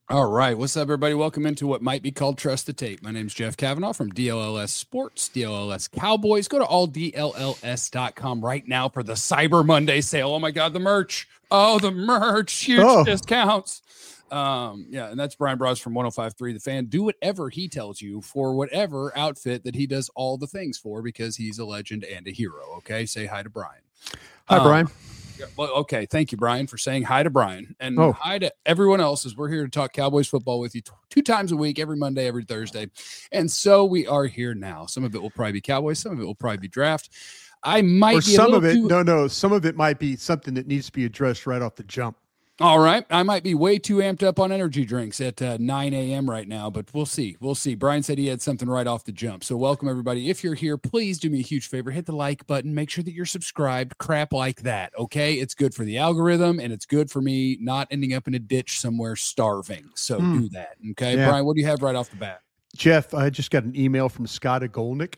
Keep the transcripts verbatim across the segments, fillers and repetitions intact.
All right. What's up, everybody? Welcome into what might be called Trust the Tape. My name's Jeff Kavanaugh from D L L S Sports, D L L S Cowboys. Go to all D L L S dot com right now for the Cyber Monday sale. Oh, my God, the merch. Oh, the merch. Huge oh. discounts. Um, yeah, and that's Brian Bros from one oh five point three The Fan. Do whatever he tells you for whatever outfit that he does all the things for, because he's a legend and a hero. Okay, say hi to Brian. Hi, um, Brian. Well, okay, thank you, Brian, for saying hi to Brian, and oh. hi to everyone else, as we're here to talk Cowboys football with you t- two times a week, every Monday, every Thursday. And so we are here now. Some of it will probably be Cowboys, some of it will probably be draft. I might or be some of it. Too- no, no, some of it might be something that needs to be addressed right off the jump. All right. I might be way too amped up on energy drinks at uh, nine a.m. right now, but we'll see. We'll see. Brian said he had something right off the jump. So welcome, everybody. If you're here, please do me a huge favor. Hit the like button. Make sure that you're subscribed. Crap like that, okay? It's good for the algorithm, and it's good for me not ending up in a ditch somewhere starving. So hmm. do that, okay? Yeah. Brian, what do you have right off the bat? Jeff, I just got an email from Scott Golnick,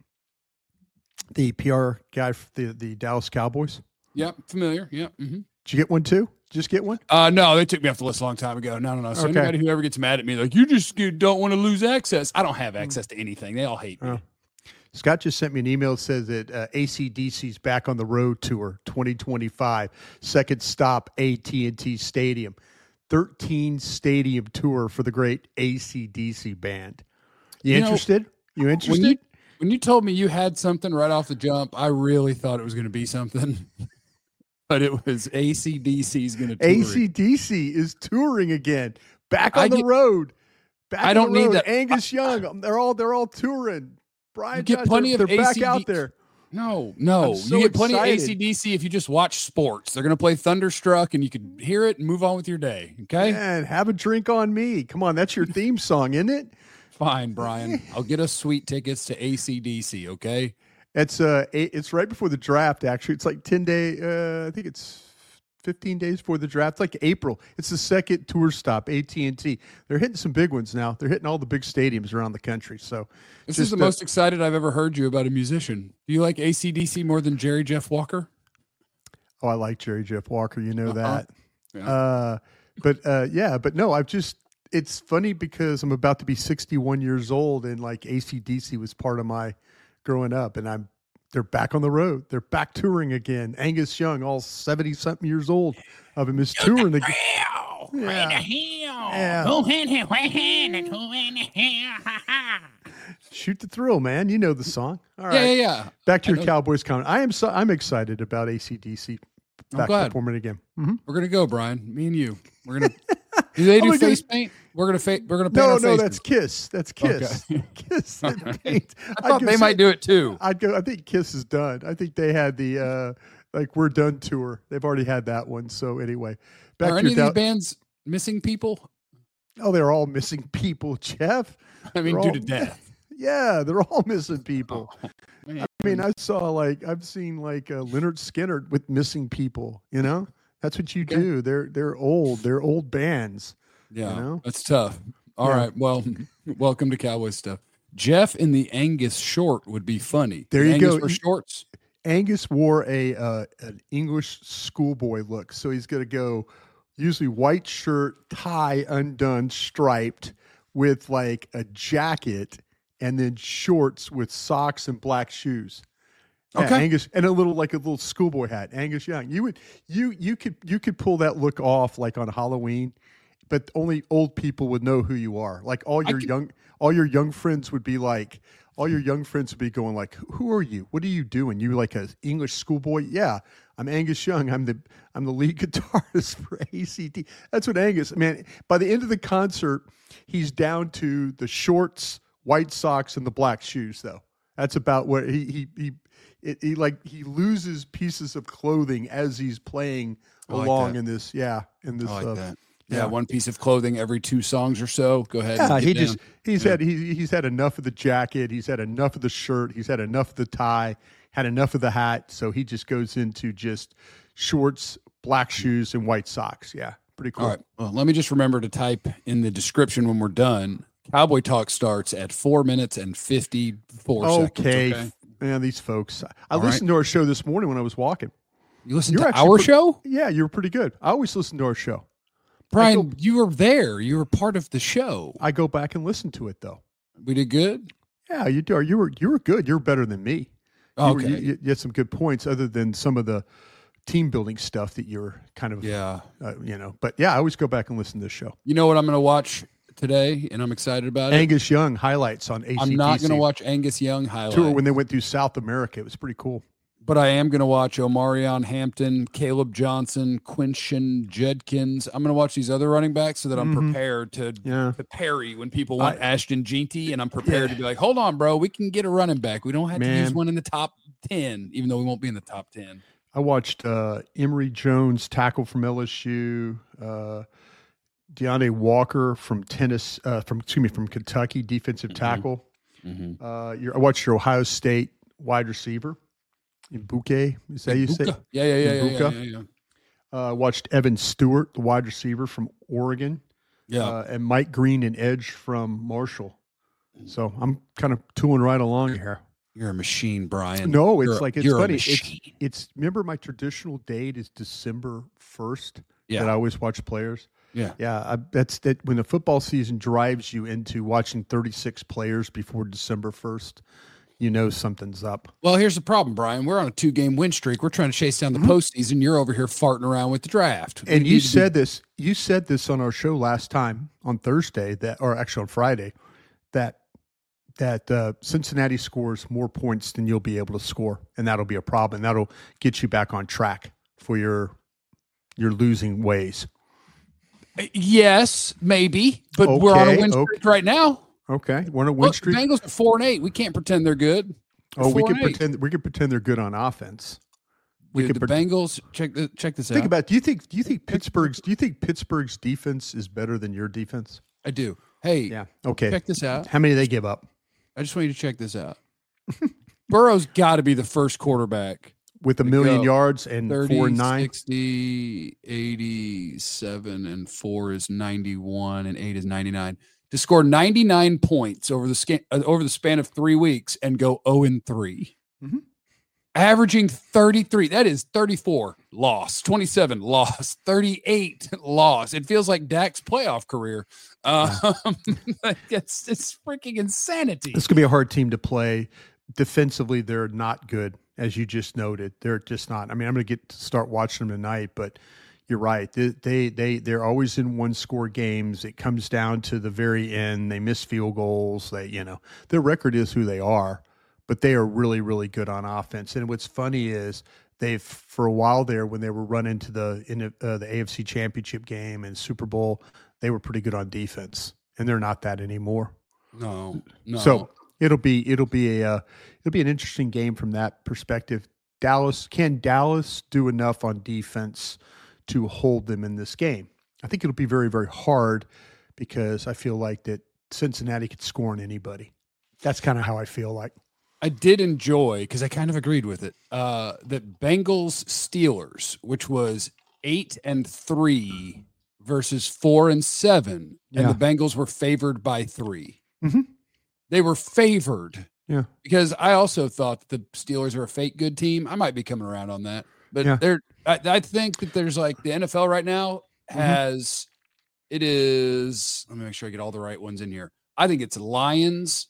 the P R guy for the, the Dallas Cowboys. Yep, familiar. Yep. Mm-hmm. Did you get one too? Just get one? Uh, no, they took me off the list a long time ago. No, no, no. So okay. Anybody who ever gets mad at me, like, you just you don't want to lose access. I don't have access to anything. They all hate me. Oh. Scott just sent me an email that says that uh, A C D C's back on the road tour twenty twenty-five. Second stop, A T and T Stadium. thirteen stadium tour for the great A C D C band. You, you interested? Know, you interested? When you, when you told me you had something right off the jump, I really thought it was going to be something. But it was A C D C's going to tour. A C D C is touring again, back on I the get, road. Back I don't need that. Angus Young, they're all they're all touring. Brian, you get Josh, plenty they're, of they're A C D C back out there. No, no, so you get plenty excited. of A C D C if you just watch sports. They're going to play Thunderstruck, and you can hear it and move on with your day. Okay, and have a drink on me. Come on, that's your theme song, isn't it? Fine, Brian. I'll get us sweet tickets to A C D C. Okay. It's uh, it's right before the draft. Actually, it's like ten day. Uh, I think it's fifteen days before the draft. It's like April. It's the second tour stop. A T and T. They're hitting some big ones now. They're hitting all the big stadiums around the country. So this just, is the uh, most excited I've ever heard you about a musician. Do you like A C D C more than Jerry Jeff Walker? Oh, I like Jerry Jeff Walker. You know uh-huh. that. Yeah. Uh, but uh, yeah, but no, I've just. It's funny because I'm about to be sixty-one years old, and like A C D C was part of my growing up, and I'm they're back on the road. They're back touring again. Angus Young, all seventy something years old of him, is touring again. Yeah. Yeah. Shoot the thrill, man. You know the song. All right. Yeah, yeah, yeah. Back to your Cowboys comment. I am so I'm excited about A C D C back performing again. Mm-hmm. We're gonna go, Brian. Me and you. We're gonna do they do face paint? We're gonna fa- we're gonna paint no, our no. faces. That's Kiss. That's Kiss. Okay. Kiss. Right. Paint. I thought they say, might do it too. I'd go. I think Kiss is done. I think they had the uh, like we're done tour. They've already had that one. So anyway, back Are to any of these bands missing people? Oh, they're all missing people, Jeff. I mean, they're due all, to death. Yeah, they're all missing people. Oh, I mean, I saw like I've seen like uh, Leonard Skinner with missing people. You know, that's what you okay. do. They're they're old. They're old bands. Yeah, you know? That's tough. All yeah. right. Well, welcome to Cowboys stuff. Jeff in the Angus short would be funny. There the you Angus go. For shorts. Angus wore a uh, an English schoolboy look, so he's going to go usually white shirt, tie undone, striped, with like a jacket, and then shorts with socks and black shoes. Yeah, okay, Angus, and a little like a little schoolboy hat. Angus Young. You would you you could you could pull that look off like on Halloween. But only old people would know who you are. Like all your could, young, all your young friends would be like, all your young friends would be going like, "Who are you? What are you doing? You like an English schoolboy?" Yeah, I'm Angus Young. I'm the I'm the lead guitarist for A C D. That's what Angus. Man, by the end of the concert, he's down to the shorts, white socks, and the black shoes. Though that's about what he he he it, he like he loses pieces of clothing as he's playing like along that. in this. Yeah, in this. I like uh, that. Yeah, yeah, one piece of clothing every two songs or so. Go ahead. Yeah, and he down. just he's yeah. had he, he's had enough of the jacket. He's had enough of the shirt. He's had enough of the tie. Had enough of the hat. So he just goes into just shorts, black shoes, and white socks. Yeah, pretty cool. All right. Well, let me just remember to type in the description when we're done. Cowboy Talk starts at four minutes and fifty-four okay. seconds. Okay. Man, these folks. I All listened right. to our show this morning when I was walking. You listened You're to our pretty, show? Yeah, you were pretty good. I always listen to our show. Brian, go, you were there. You were part of the show. I go back and listen to it though. We did good. Yeah, you do. You were you were good. You were better than me. You Okay. Were, you, you had some good points, other than some of the team building stuff that you're kind of, yeah, uh, you know. But yeah, I always go back and listen to this show. You know what I'm going to watch today, and I'm excited about it. Angus Young highlights on A C D C. I'm not going to watch Angus Young highlights. Tour when they went through South America. It was pretty cool. But I am going to watch Omarion Hampton, Caleb Johnson, Quinton Judkins. I'm going to watch these other running backs so that I'm mm-hmm. prepared to, yeah. to parry when people want I, Ashton Jeanty, and I'm prepared yeah. to be like, hold on, bro, we can get a running back. We don't have Man. to use one in the top ten, even though we won't be in the top ten. I watched uh, Emory Jones tackle from L S U, uh, Deontay Walker from tennis, uh, from excuse me, from Kentucky, defensive mm-hmm. tackle. Mm-hmm. Uh, I watched your Ohio State wide receiver. Mbuke, is that you say? Yeah, yeah, yeah, yeah, yeah, yeah, yeah. Uh, watched Evan Stewart, the wide receiver from Oregon. Yeah. Uh, and Mike Green and Edge from Marshall. So I'm kind of tooling right along here. You're a machine, Brian. No, it's you're, like, it's you're funny. It's, it's, remember my traditional date is December first yeah. that I always watch players. Yeah. Yeah. I, that's that when the football season drives you into watching thirty-six players before December first, you know something's up. Well, here's the problem, Brian. We're on a two-game win streak. We're trying to chase down the mm-hmm. postseason. You're over here farting around with the draft. And we you said be- this. You said this on our show last time on Thursday, that, or actually on Friday, that that uh, Cincinnati scores more points than you'll be able to score, and that'll be a problem. That'll get you back on track for your your losing ways. Yes, maybe, but okay, we're on a win streak okay. right now. Okay, we're on a win Look, streak. The Bengals are four and eight. We can't pretend they're good. They're oh, we can eight. pretend. We can pretend they're good on offense. We Dude, can the pre- Bengals. Check the, check this think out. Think about. Do you think? Do you think Pittsburgh's? Do you think Pittsburgh's defense is better than your defense? I do. Hey, yeah. Okay. Check this out. How many do they give up? I just want you to check this out. Burrow's got to be the first quarterback with a million go. yards and thirty, four and nine. sixty, eighty-seven, and four is ninety-one, and eight is ninety-nine. To score ninety-nine points over the scan, uh, over the span of three weeks and go zero and three, mm-hmm. averaging thirty-three. That is thirty-four loss, twenty-seven loss, thirty-eight loss. It feels like Dak's playoff career. Um, it's it's freaking insanity. It's gonna be a hard team to play. Defensively, they're not good, as you just noted. They're just not. I mean, I'm gonna get to start watching them tonight, but. You're right. They, they, they, they're always in one score games. It comes down to the very end. They miss field goals. They, you know, their record is who they are, but they are really, really good on offense. And what's funny is they've, for a while there, when they were running to the, in uh, the A F C Championship game and Super Bowl, they were pretty good on defense, and they're not that anymore. No, no. So it'll be, it'll be a, uh, it'll be an interesting game from that perspective. Dallas, can Dallas do enough on defense to hold them in this game? I think it'll be very, very hard because I feel like that Cincinnati could score on anybody. That's kind of how I feel like. I did enjoy, because I kind of agreed with it, uh, that Bengals Steelers, which was eight and three versus four and seven, and yeah. the Bengals were favored by three. Mm-hmm. They were favored. Yeah. Because I also thought that the Steelers are a fake good team. I might be coming around on that. But yeah. they're I, I think that there's like the N F L right now has mm-hmm. it is let me make sure I get all the right ones in here. I think it's Lions,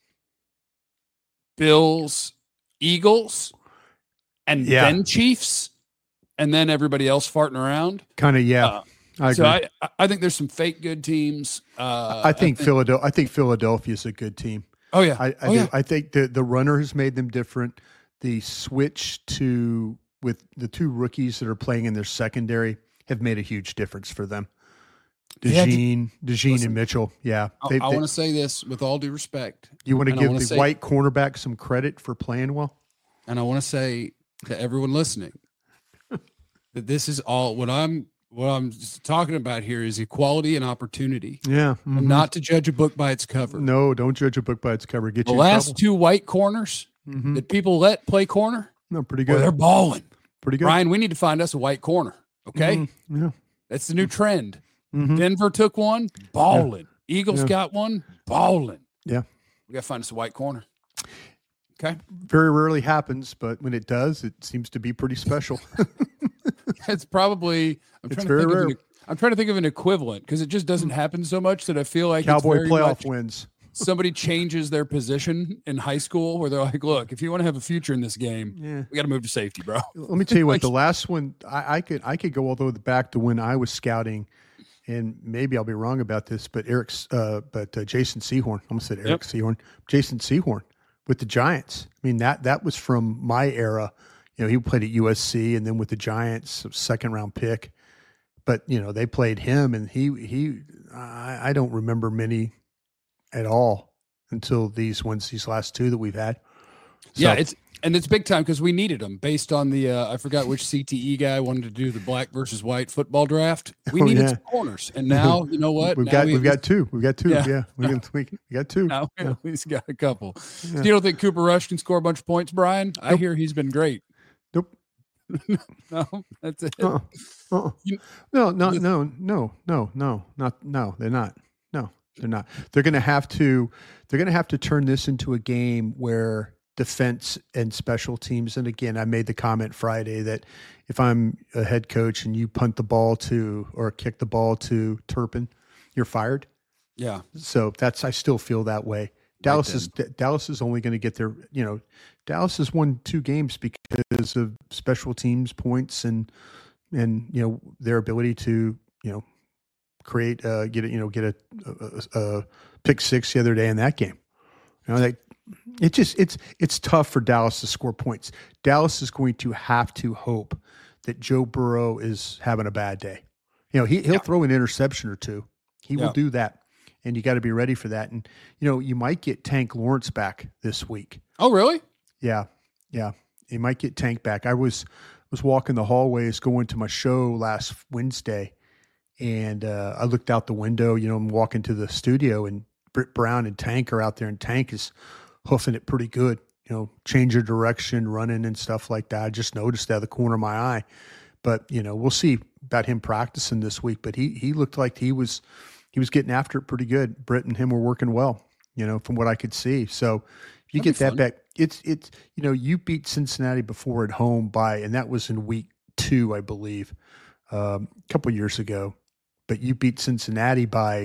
Bills, Eagles, and yeah. then Chiefs, and then everybody else farting around. Kind of, yeah. Uh, I agree. So I, I think there's some fake good teams. Uh, I think, think Philadelphia. I think Philadelphia is a good team. Oh yeah, I I, oh, do, yeah. I think the the runner has made them different. The switch to with the two rookies that are playing in their secondary have made a huge difference for them. DeJean, yeah, DeJean Listen, and Mitchell. Yeah. They, I, I want to say this with all due respect. You want to give the say, white cornerback some credit for playing well? And I want to say to everyone listening that this is all what I'm what I'm talking about here is equality and opportunity. Yeah. Mm-hmm. And not to judge a book by its cover. No, don't judge a book by its cover. Get the you last trouble. two white corners mm-hmm. that people let play corner. No, pretty good. Well, they're balling. Pretty good. Ryan, we need to find us a white corner. Okay. Mm-hmm. Yeah. That's the new trend. Mm-hmm. Denver took one, balling. Yeah. Eagles yeah. got one, balling. Yeah. We got to find us a white corner. Okay. Very rarely happens, but when it does, it seems to be pretty special. It's probably, I'm it's trying very to think rare. of an, I'm trying to think of an equivalent because it just doesn't happen so much that I feel like Cowboy it's very playoff much wins. somebody changes their position in high school where they're like, look, if you want to have a future in this game, Yeah. we got to move to safety, bro. Let me tell you what, Like- the last one, I, I could I could go all the way back to when I was scouting, and maybe I'll be wrong about this, but Eric's, uh, but uh, Jason Sehorn, I almost said Eric Yep. Sehorn, Jason Sehorn with the Giants. I mean, that that was from my era. You know, he played at U S C and then with the Giants, second round pick. But, you know, they played him, and he, he I, I don't remember many at all until these ones, these last two that we've had. So, Yeah, it's and it's big time because we needed them based on the uh, I forgot which C T E guy wanted to do the black versus white football draft. We Oh, needed yeah. some corners, and now you know what? we've Now got we we've at got two. We've got two. Yeah. Yeah, we, can, we, we got two. Now we Yeah. at least got a couple. Yeah. So you don't think Cooper Rush can score a bunch of points, Brian? I Nope. hear he's been great. Nope. No, that's it. Uh-uh. Uh-uh. You- No, no, no, no, no, no, not no. They're not. No, they're not. They're going to have to. They're going to have to turn this into a game where defense and special teams. And again, I made the comment Friday that if I'm a head coach and you punt the ball to or kick the ball to Turpin, you're fired. Yeah, So that's I still feel that way. Dallas is Dallas is only going to get their, you know, Dallas has won two games because of special teams points and and you know their ability to you know create uh, get a, you know get a, a, a pick six the other day in that game. You know, like it just it's it's tough for Dallas to score points. Dallas is going to have to hope that Joe Burrow is having a bad day. You know, he he'll Yeah. throw an interception or two. He Yeah. will do that. And you got to be ready for that. And, you know, you might get Tank Lawrence back this week. Oh, really? Yeah. Yeah. You might get Tank back. I was was walking the hallways going to my show last Wednesday, and uh, I looked out the window. You know, I'm walking to the studio, and Britt Brown and Tank are out there, and Tank is hoofing it pretty good. You know, change of direction, running and stuff like that. I just noticed that out of the corner of my eye. But, you know, we'll see about him practicing this week. But he he looked like he was – he was getting after it pretty good. Britt and him were working well, you know, from what I could see. So if you That'd get be that fun. back, it's, it's, you know, you beat Cincinnati before at home by, and that was in week two, I believe, um, a couple of years ago, but you beat Cincinnati by,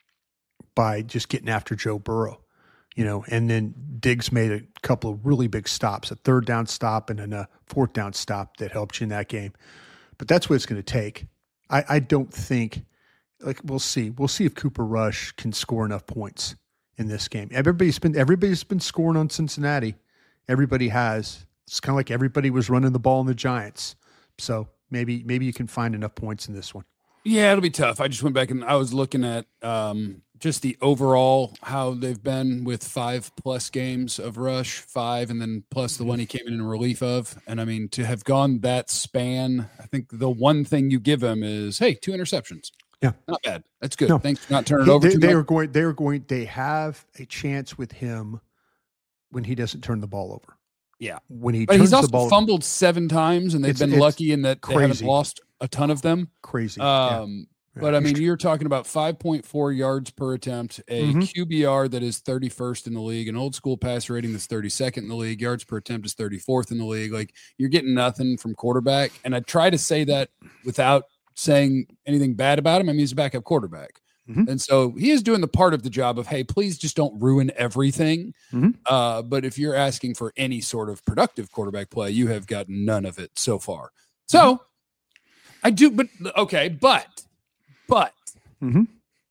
by just getting after Joe Burrow, you know, and then Diggs made a couple of really big stops, a third down stop and then a fourth down stop that helped you in that game. But that's what it's going to take. I, I don't think, like we'll see. We'll see if Cooper Rush can score enough points in this game. Everybody's been everybody's been scoring on Cincinnati. Everybody has. It's kind of like everybody was running the ball in the Giants. So maybe maybe you can find enough points in this one. Yeah, it'll be tough. I just went back and I was looking at um, just the overall how they've been with five plus games of Rush, five, and then plus the one he came in in relief of. And I mean, to have gone that span, I think the one thing you give him is, hey, two interceptions. Yeah. Not bad. That's good. No. Thanks for not turning it He- over they, too they much. are going. They are going. They have a chance with him when he doesn't turn the ball over. Yeah. When he But turns he's also the ball, fumbled seven times, and they've It's- been it's lucky in that they haven't crazy. lost a ton of them. crazy. Yeah. Um, Yeah. But I mean, you're talking about five point four yards per attempt, a Mhm. Q B R that is thirty-first in the league, an old school passer rating that's thirty-second in the league, yards per attempt is thirty-fourth in the league. Like you're getting nothing from quarterback. And I try to say that without saying anything bad about him. I mean, he's a backup quarterback. Mhm. And so he is doing the part of the job of, hey, please just don't ruin everything. Mhm. Uh, but if you're asking for any sort of productive quarterback play, you have got none of it so far. So I do, but okay, but, but Mhm.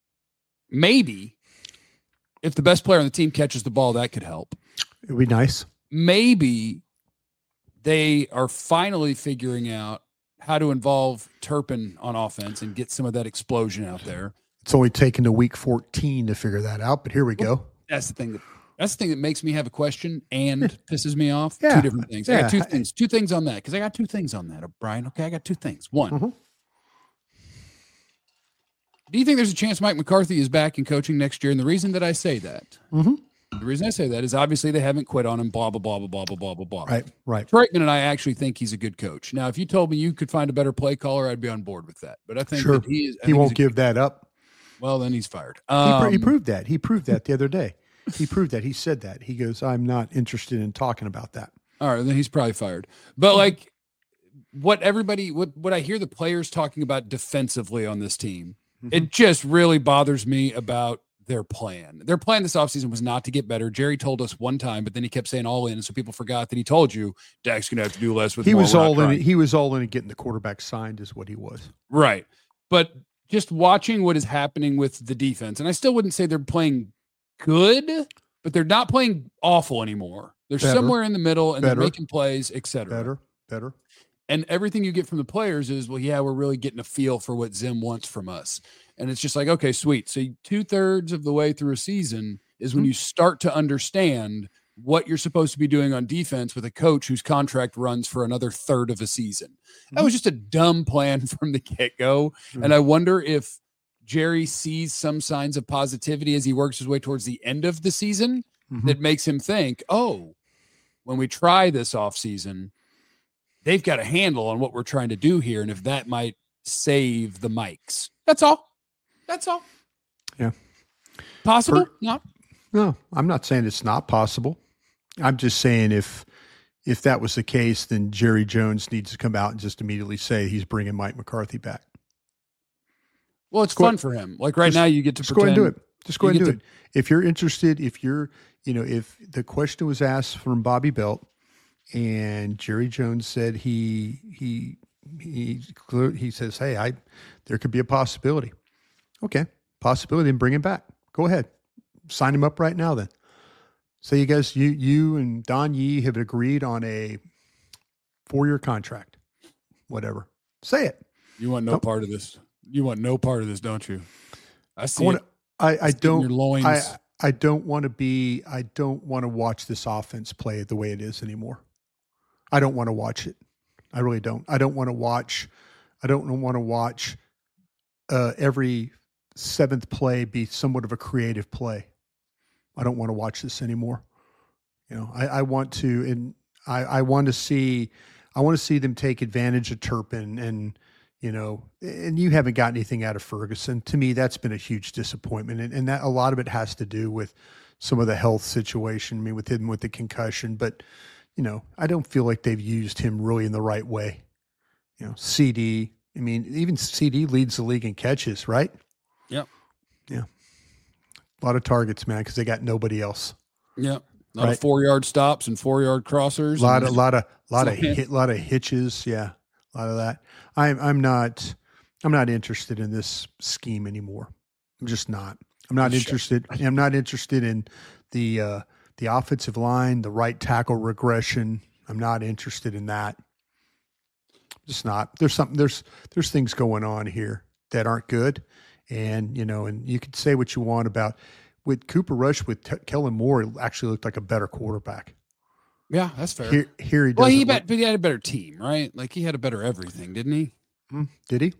maybe if the best player on the team catches the ball, that could help. It'd be nice. Maybe they are finally figuring out how to involve Turpin on offense and get some of that explosion out there. It's only taken to week fourteen to figure that out, but here we go. That's the thing that that's the thing that makes me have a question and pisses me off. Yeah. Two different things. I got Yeah. two things. Two things on that because I got two things on that, Brian. Okay, I got two things. One. Mhm. Do you think there's a chance Mike McCarthy is back in coaching next year? And the reason that I say that, Mhm. the reason I say that is obviously they haven't quit on him. Blah blah blah blah blah blah blah blah blah. Right, right. Troitman and I actually think he's a good coach. Now, if you told me you could find a better play caller, I'd be on board with that. But I think Sure. that he is. I He think won't he's a- give that up. Well, then he's fired. He, Um, pr- he proved that. He proved that the other day. He proved that. He said that. He goes, I'm not interested in talking about that. All right, then he's probably fired. But like what everybody, what, what I hear the players talking about defensively on this team, Mm-hmm. it just really bothers me about their plan. Their plan this offseason was not to get better. Jerry told us one time, but then he kept saying all in. So people forgot that he told you Dak's going to have to do less with he more. was We're all in. trying. He was all in and getting the quarterback signed is what he was. Right. But just watching what is happening with the defense, and I still wouldn't say they're playing good, but they're not playing awful anymore. They're Better. somewhere in the middle and Better. they're making plays, et cetera. Better, better. And everything you get from the players is, well, yeah, we're really getting a feel for what Zim wants from us. And it's just like, okay, sweet. So two thirds of the way through a season is when Mm-hmm. you start to understand what you're supposed to be doing on defense with a coach whose contract runs for another third of a season. Mm-hmm. That was just a dumb plan from the get-go. Mm-hmm. And I wonder if Jerry sees some signs of positivity as he works his way towards the end of the season Mm-hmm. that makes him think, oh, when we try this offseason, they've got a handle on what we're trying to do here. And if that might save the mics, that's all. That's all. Yeah. Possible? Per- no. No, I'm not saying it's not possible. I'm just saying if if that was the case, then Jerry Jones needs to come out and just immediately say he's bringing Mike McCarthy back. Well, it's Go fun ahead. for him. Like right Just- now, you get to Just go pretend. ahead and do it. Just go you ahead and do get it. If you're interested, if you're, you know, if the question was asked from Bobby Belt and Jerry Jones said he he he clear- he says, hey, I there could be a possibility. Okay, possibility, then bring him back. Go ahead, sign him up right now. Then, so you guys, you you and Don Yee have agreed on a four year contract. Whatever, say it. You want no Nope. part of this. You want no part of this, don't you? I see. I want it. to. I, I It's in your don't. loins. I I don't want to be. I don't want to watch this offense play the way it is anymore. I don't want to watch it. I really don't. I don't want to watch. I don't want to watch uh, every seventh play be somewhat of a creative play. I don't want to watch this anymore. You know, I, I want to, and I, I want to see. I want to see them take advantage of Turpin and. You know, and you haven't got anything out of Ferguson. To me, that's been a huge disappointment. And, and that a lot of it has to do with some of the health situation, I mean, with him with the concussion. But, you know, I don't feel like they've used him really in the right way. You know, C D, I mean, even C D leads the league in catches, right? Yep. Yeah. A lot of targets, man, because they got nobody else. Yep. A lot Right. of four yard stops and four yard crossers. A lot and- of, lot of, lot of So- hit, lot of hitches. Yeah. A lot of that. I'm, I'm not, I'm not interested in this scheme anymore. I'm just not. I'm not Sure. interested. I'm not interested in the, uh, the offensive line, the right tackle regression. I'm not interested in that. Just not. There's something. There's there's things going on here that aren't good, and you know, and you could say what you want about with Cooper Rush with T- Kellen Moore. It actually looked like a better quarterback. Yeah, that's fair. Here, here he does. well, he, bet, but he had a better team, right? Like he had a better everything, didn't he? Did he?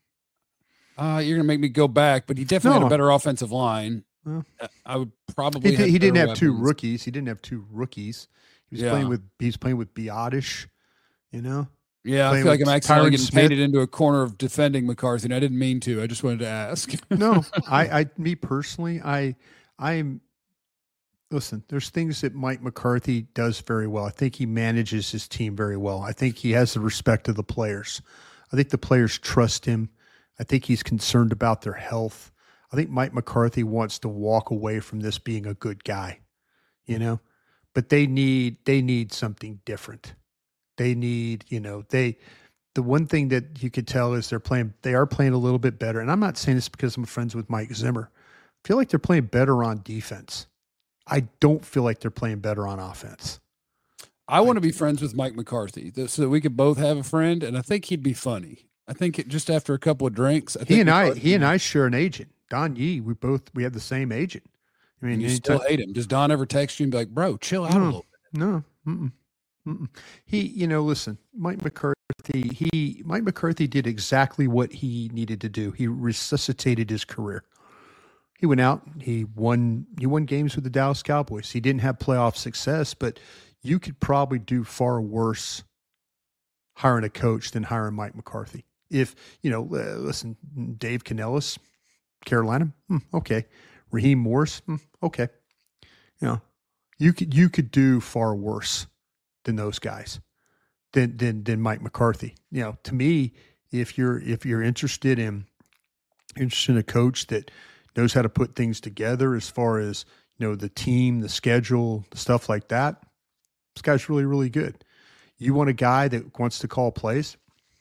Uh, you're gonna make me go back, but he definitely No. had a better offensive line. Well, Uh, I would probably. He, have he didn't better have two weapons. rookies. He didn't have two rookies. He was Yeah. playing with. He's playing with Biotish. You know. Yeah, I playing feel like with I'm accidentally Tyron getting Smith. painted into a corner of defending McCarthy, and I didn't mean to. I just wanted to ask. No, I, I, me personally, I, I'm. Listen, there's things that Mike McCarthy does very well. I think he manages his team very well. I think he has the respect of the players. I think the players trust him. I think he's concerned about their health. I think Mike McCarthy wants to walk away from this being a good guy, you know, but they need, they need something different. They need, you know, they, the one thing that you could tell is they're playing, they are playing a little bit better. And I'm not saying this because I'm friends with Mike Zimmer. I feel like they're playing better on defense. I don't feel like they're playing better on offense. I want to be friends with Mike McCarthy th- so that we could both have a friend, and I think he'd be funny. I think it, just after a couple of drinks, I think He and I, McCarthy- he and I share an agent, Don Yee. We both, we have the same agent. I mean, And you anytime- still hate him. Does Don ever text you and be like, "Bro, chill out a No. little bit"? No, mm-mm, mm-mm. He, you know, listen, Mike McCarthy, he, Mike McCarthy did exactly what he needed to do. He resuscitated his career. He went out, he won, he won games with the Dallas Cowboys. He didn't have playoff success, but you could probably do far worse hiring a coach than hiring Mike McCarthy. If, you know, uh, listen, Dave Canellis, Carolina, hmm, okay. Raheem Morris, hmm, okay. You know, you could, you could do far worse than those guys. than than than Mike McCarthy. You know, to me, if you're if you're interested in interested in a coach that knows how to put things together as far as, you know, the team, the schedule, stuff like that, this guy's really, really good. You want a guy that wants to call plays?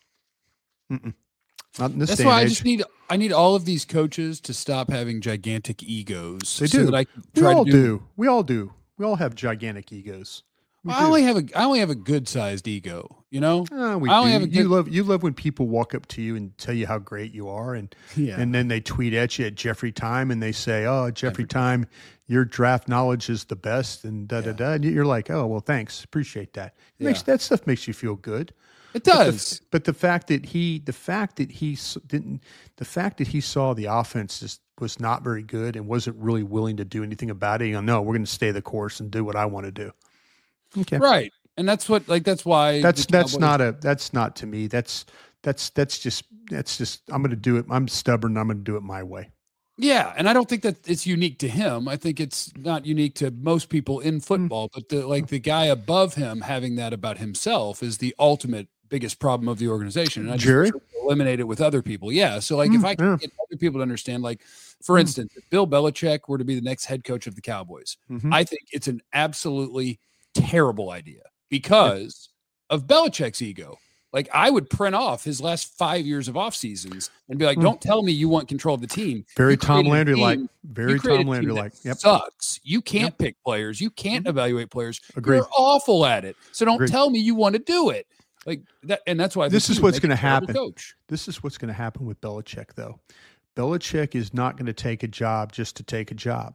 Mm-mm. Not in this That's day why and I age. just need I need all of these coaches to stop having gigantic egos. They so do. That I can We try all to do. do. We all do. We all have gigantic egos. We I do. only have a I only have a good sized ego. You know. Uh, we I only do. have a you good- love you love when people walk up to you and tell you how great you are, and Yeah. and then they tweet at you at Jeffrey Time and they say, "Oh, Jeffrey Time, your draft knowledge is the best," and da da da. And you're like, "Oh, well, thanks, appreciate that." It makes Yeah. that stuff makes you feel good. It But the- does. But the fact that he, the fact that he s- didn't, the fact that he saw the offense just was not very good and wasn't really willing to do anything about it. You know, no, we're going to stay the course and do what I want to do. Okay, Right. And that's what like that's why that's the that's Cowboys- not a that's not to me. That's that's that's just that's just I'm going to do it. I'm stubborn. I'm going to do it my way. Yeah, and I don't think that it's unique to him. I think it's not unique to most people in football, but the like the guy above him having that about himself is the ultimate biggest problem of the organization. And I just Jerry? wish I could eliminate it with other people. Yeah. So like if Mm, I can yeah. get other people to understand, like for Mm. instance, if Bill Belichick were to be the next head coach of the Cowboys, Mhm. I think it's an absolutely terrible idea because of Belichick's ego. Like I would print off his last five years of off seasons and be like, Mm. "Don't tell me you want control of the team." Very You Tom created a Landry like. team- Very you created Tom a team Landry that like. Yep. Sucks. You can't pick players. You can't evaluate players. Agreed. You're awful at it. So don't Agreed. tell me you want to do it. Like that, and that's why I think This he is would what's make a gonna terrible happen. Coach. This is what's going to happen with Belichick, though. Belichick is not going to take a job just to take a job.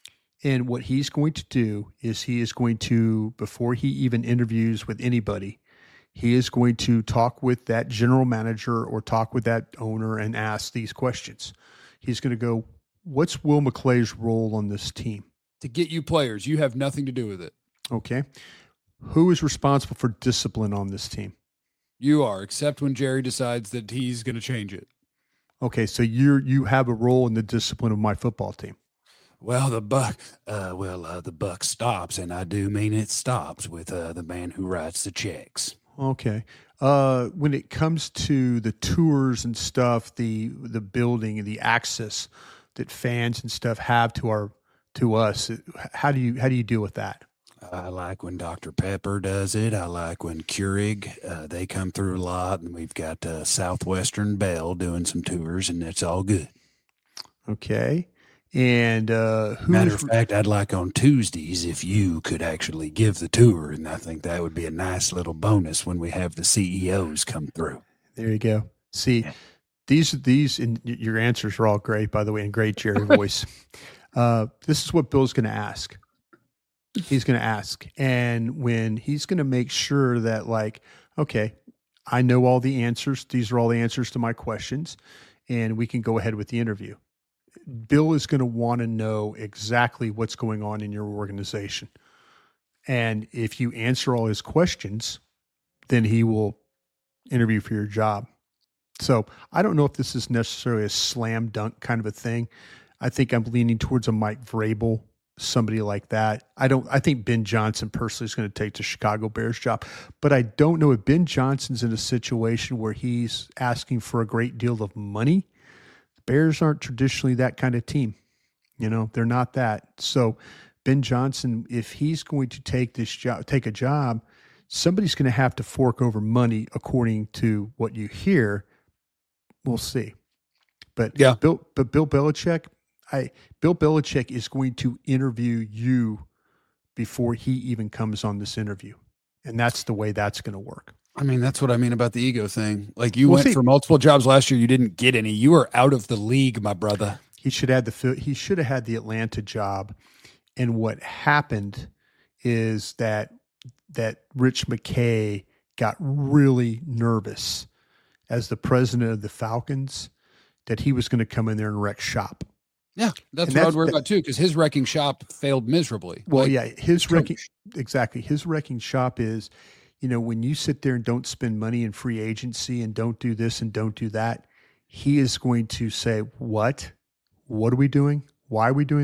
And what he's going to do is he is going to, before he even interviews with anybody, he is going to talk with that general manager or talk with that owner and ask these questions. He's going to go, what's Will McClay's role on this team? To get you players, you have nothing to do with it. Okay. Who is responsible for discipline on this team? You are, except when Jerry decides that he's going to change it. Okay, so you you have a role in the discipline of my football team. Well, the buck, uh, well, uh, the buck stops, and I do mean it stops with uh, the man who writes the checks. Okay. Uh, when it comes to the tours and stuff, the the building and the access that fans and stuff have to our to us, how do you how do you deal with that? I like when Doctor Pepper does it. I like when Keurig, uh, they come through a lot, and we've got uh, Southwestern Bell doing some tours, and it's all good. Okay. And uh, who Matter is- of fact, I'd like on Tuesdays if you could actually give the tour, and I think that would be a nice little bonus when we have the C E Os come through. there you go. See, these these and y- your answers are all great, by the way, and great Jerry voice. Uh, this is what Bill's going to ask. He's going to ask, and when he's going to make sure that, like, okay, I know all the answers. These are all the answers to my questions, and we can go ahead with the interview. Bill is going to want to know exactly what's going on in your organization. And if you answer all his questions, then he will interview for your job. So I don't know if this is necessarily a slam dunk kind of a thing. I think I'm leaning towards a Mike Vrabel, somebody like that. I don't, I think Ben Johnson personally is going to take the Chicago Bears job, but I don't know if Ben Johnson's in a situation where he's asking for a great deal of money. Bears aren't traditionally that kind of team. You know, they're not that. So Ben Johnson, if he's going to take this job, take a job, somebody's going to have to fork over money according to what you hear. We'll see. But Yeah. Bill, but Bill Belichick, I Bill Belichick is going to interview you before he even comes on this interview. And that's the way that's going to work. I mean, that's what I mean about the ego thing. Like you Well, went see- for multiple jobs last year, you didn't get any. You were out of the league, my brother. He should have the he should have had the Atlanta job. And what happened is that that Rich McKay got really nervous as the president of the Falcons that he was going to come in there and wreck shop. Yeah, that's And what I that's- would worry that- about too, because his wrecking shop failed miserably. Well, Like, yeah, his coach. wrecking exactly. His wrecking shop is, you know, when you sit there and don't spend money in free agency and don't do this and don't do that, he is going to say, "What? What are we doing? Why are we doing that?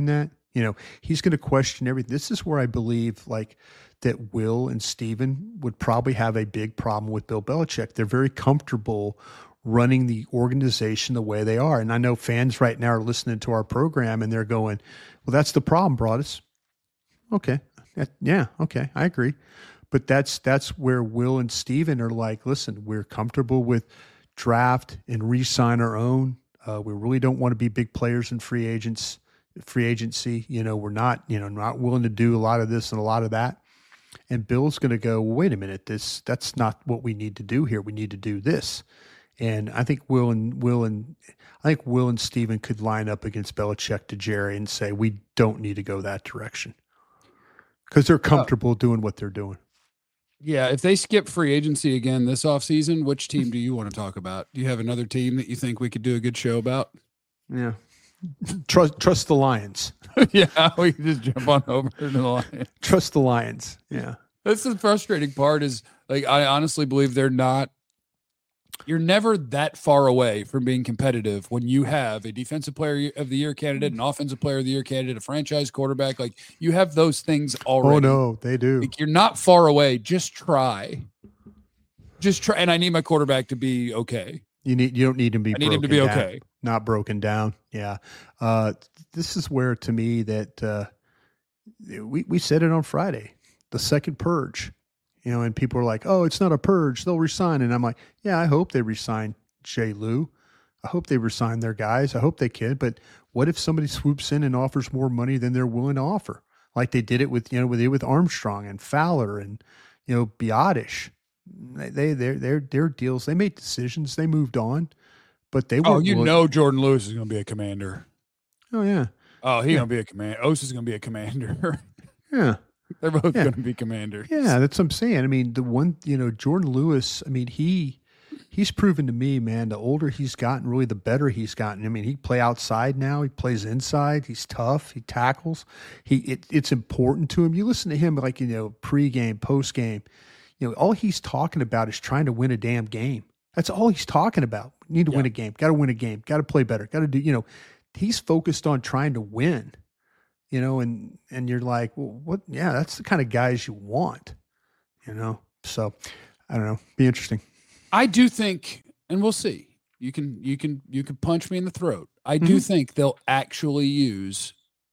You know, he's going to question everything. This is where I believe like that Will and Steven would probably have a big problem with Bill Belichick. They're very comfortable running the organization the way they are. And I know fans right now are listening to our program and they're going, well, that's the problem, Broadus. Okay. Yeah. Okay. I agree. But that's, that's where Will and Steven are like, listen, we're comfortable with draft and re-sign our own. Uh, we really don't want to be big players in free agents, free agency. You know, we're not, you know, not willing to do a lot of this and a lot of that. And Bill's going to go, well, wait a minute, this, that's not what we need to do here. We need to do this. And I think Will and Will and I think Will and Steven could line up against Belichick to Jerry and say, we don't need to go that direction because they're comfortable uh, doing what they're doing. Yeah. If they skip free agency again this offseason, which team do you want to talk about? Do you have another team that you think we could do a good show about? Yeah. Trust, trust the Lions. Yeah. We can just jump on over to the Lions. Trust the Lions. Yeah. That's the frustrating part is like, I honestly believe they're not, you're never that far away from being competitive when you have a defensive player of the year candidate, an offensive player of the year candidate, a franchise quarterback. Like you have those things already. Oh no, they do. Like, you're not far away. Just try, just try. And I need my quarterback to be okay. You need, you don't need him to be, I need him to be down, okay. Not broken down. Yeah. Uh, this is where to me that, uh, we, we said it on Friday, the second purge. You know, and people are like, oh, it's not a purge. They'll resign. And I'm like, yeah, I hope they resign Jay Lou. I hope they resign their guys. I hope they can. But what if somebody swoops in and offers more money than they're willing to offer? Like they did it with, you know, with, with Armstrong and Fowler and, you know, Biotish. They, they, their, their, their deals, they made decisions. They moved on. But they Oh, weren't you willing- know Jordan Lewis is going to be a commander. Oh, yeah. Oh, he's Yeah. going to be a commander. Osa is going to be a commander. Yeah. They're both Yeah. going to be commanders. Yeah, that's what I'm saying. I mean, the one, you know, Jordan Lewis, I mean, he he's proven to me, man, the older he's gotten, really the better he's gotten. I mean, he play outside now. He plays inside. He's tough. He tackles. He it, it's important to him. You listen to him like, you know, pregame, postgame, you know, all he's talking about is trying to win a damn game. That's all he's talking about. Need to Yeah. win a game. Got to win a game. Got to play better. Got to do, you know, he's focused on trying to win. You know, and, and you're like, well, what? Yeah, that's the kind of guys you want, you know? So I don't know, be interesting. I do think, and we'll see, you can, you can, you can punch me in the throat. I do Mhm. think they'll actually use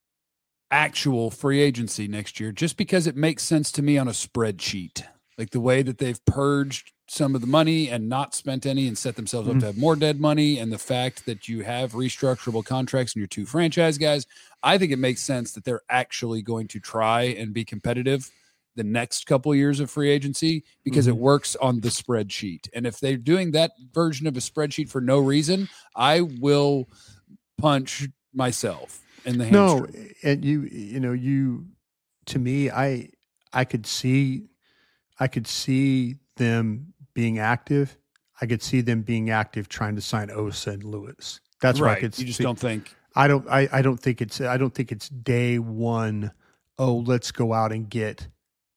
actual free agency next year just because it makes sense to me on a spreadsheet, like the way that they've purged some of the money and not spent any and set themselves Mm-hmm. up to have more dead money. And the fact that you have restructurable contracts in your two franchise guys, I think it makes sense that they're actually going to try and be competitive the next couple of years of free agency because Mm-hmm. it works on the spreadsheet. And if they're doing that version of a spreadsheet for no reason, I will punch myself in the hamstring. No, and you, you know, you, to me, I, I could see, I could see them being active. I could see them being active trying to sign Osa and Lewis. That's right. what I could You just see. don't think. I don't. I, I don't think it's. I don't think it's day one. Oh, let's go out and get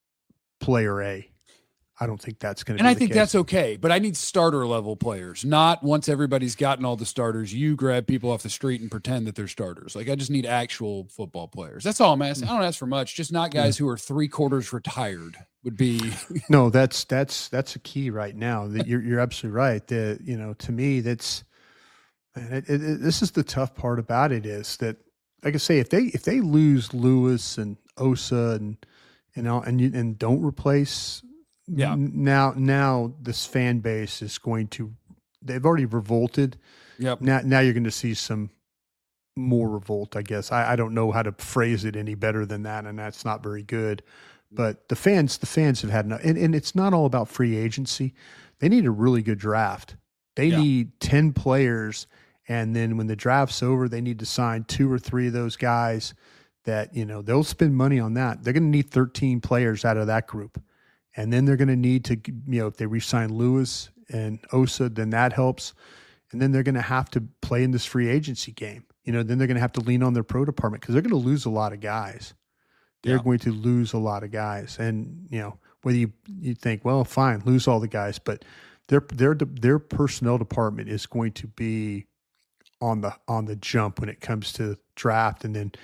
player A. I don't think that's going to. And be I the think case. that's okay, but I need starter level players, not once everybody's gotten all the starters, you grab people off the street and pretend that they're starters. Like I just need actual football players. That's all I'm asking. I don't ask for much, just not guys who are three quarters retired would be. No, that's that's that's a key right now. That you're you're absolutely right. That you know, to me, that's man, it, it, it- this is the tough part about it is that, like I say, if they if they lose Lewis and Osa and you know and you and don't replace, Yeah. n- now now this fan base is going to. They've already revolted. Yep. Now now you're going to see some more revolt. I guess I, I don't know how to phrase it any better than that, and that's not very good. But the fans, the fans have had enough, and, and it's not all about free agency. They need a really good draft. They Yeah. need ten players, and then when the draft's over, they need to sign two or three of those guys that, you know, they'll spend money on that. They're going to need thirteen players out of that group. And then they're going to need to, you know, if they re-sign Lewis and Osa, then that helps. And then they're going to have to play in this free agency game. You know, then they're going to have to lean on their pro department because they're going to lose a lot of guys. They're Yeah. going to lose a lot of guys. And, you know, whether you, you think, well, fine, lose all the guys, but their their their personnel department is going to be on the on the jump when it comes to draft and then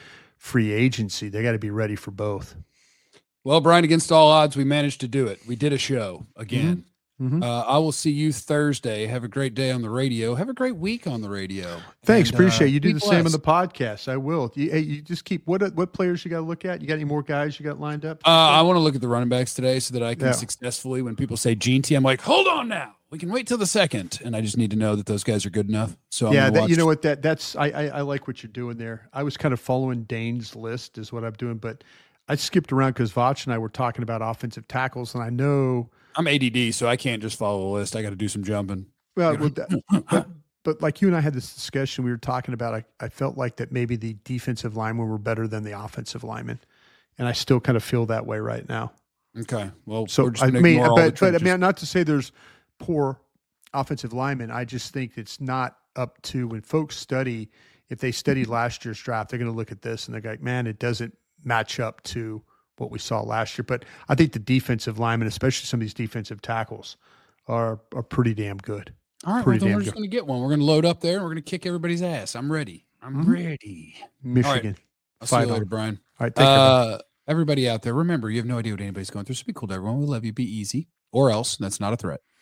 free agency. They got to be ready for both. Well, Brian, against all odds, we managed to do it. We did a show again. Mm-hmm. Uh, I will see you Thursday. Have a great day on the radio. Have a great week on the radio. Thanks. And, appreciate uh, you do the blessed. same on the podcast. I will. You, hey, you just keep what what players you got to look at? You got any more guys you got lined up? Uh, I want to look at the running backs today so that I can Yeah. successfully, when people say Gene T, I'm like, hold on now. We can wait till the second. And I just need to know that those guys are good enough. So I'm yeah, gonna that, watch- you know what? That that's I, I I like what you're doing there. I was kind of following Dane's list is what I'm doing, but I skipped around because Vach and I were talking about offensive tackles, and I know. I'm A D D, so I can't just follow the list. I got to do some jumping. Well, well that, but, but like you and I had this discussion, we were talking about, I, I felt like that maybe the defensive linemen were better than the offensive linemen. And I still kind of feel that way right now. Okay. Well, So, we're just I gonna mean, ignore all the but, but I trenches. mean, not to say there's poor offensive linemen. I just think it's not up to when folks study, if they studied last year's draft, they're going to look at this and they're like, man, it doesn't match up to what we saw last year. But I think the defensive linemen, especially some of these defensive tackles, are are pretty damn good. All right, well, pretty then damn we're just good. going to get one. We're going to load up there, and we're going to kick everybody's ass. I'm ready. I'm Mhm. ready. Michigan. I'll see Fight you later, on. Brian. All right, take care. bud. Uh, everybody out there, remember, you have no idea what anybody's going through. So be cool to everyone. We love you. Be easy, or else that's not a threat.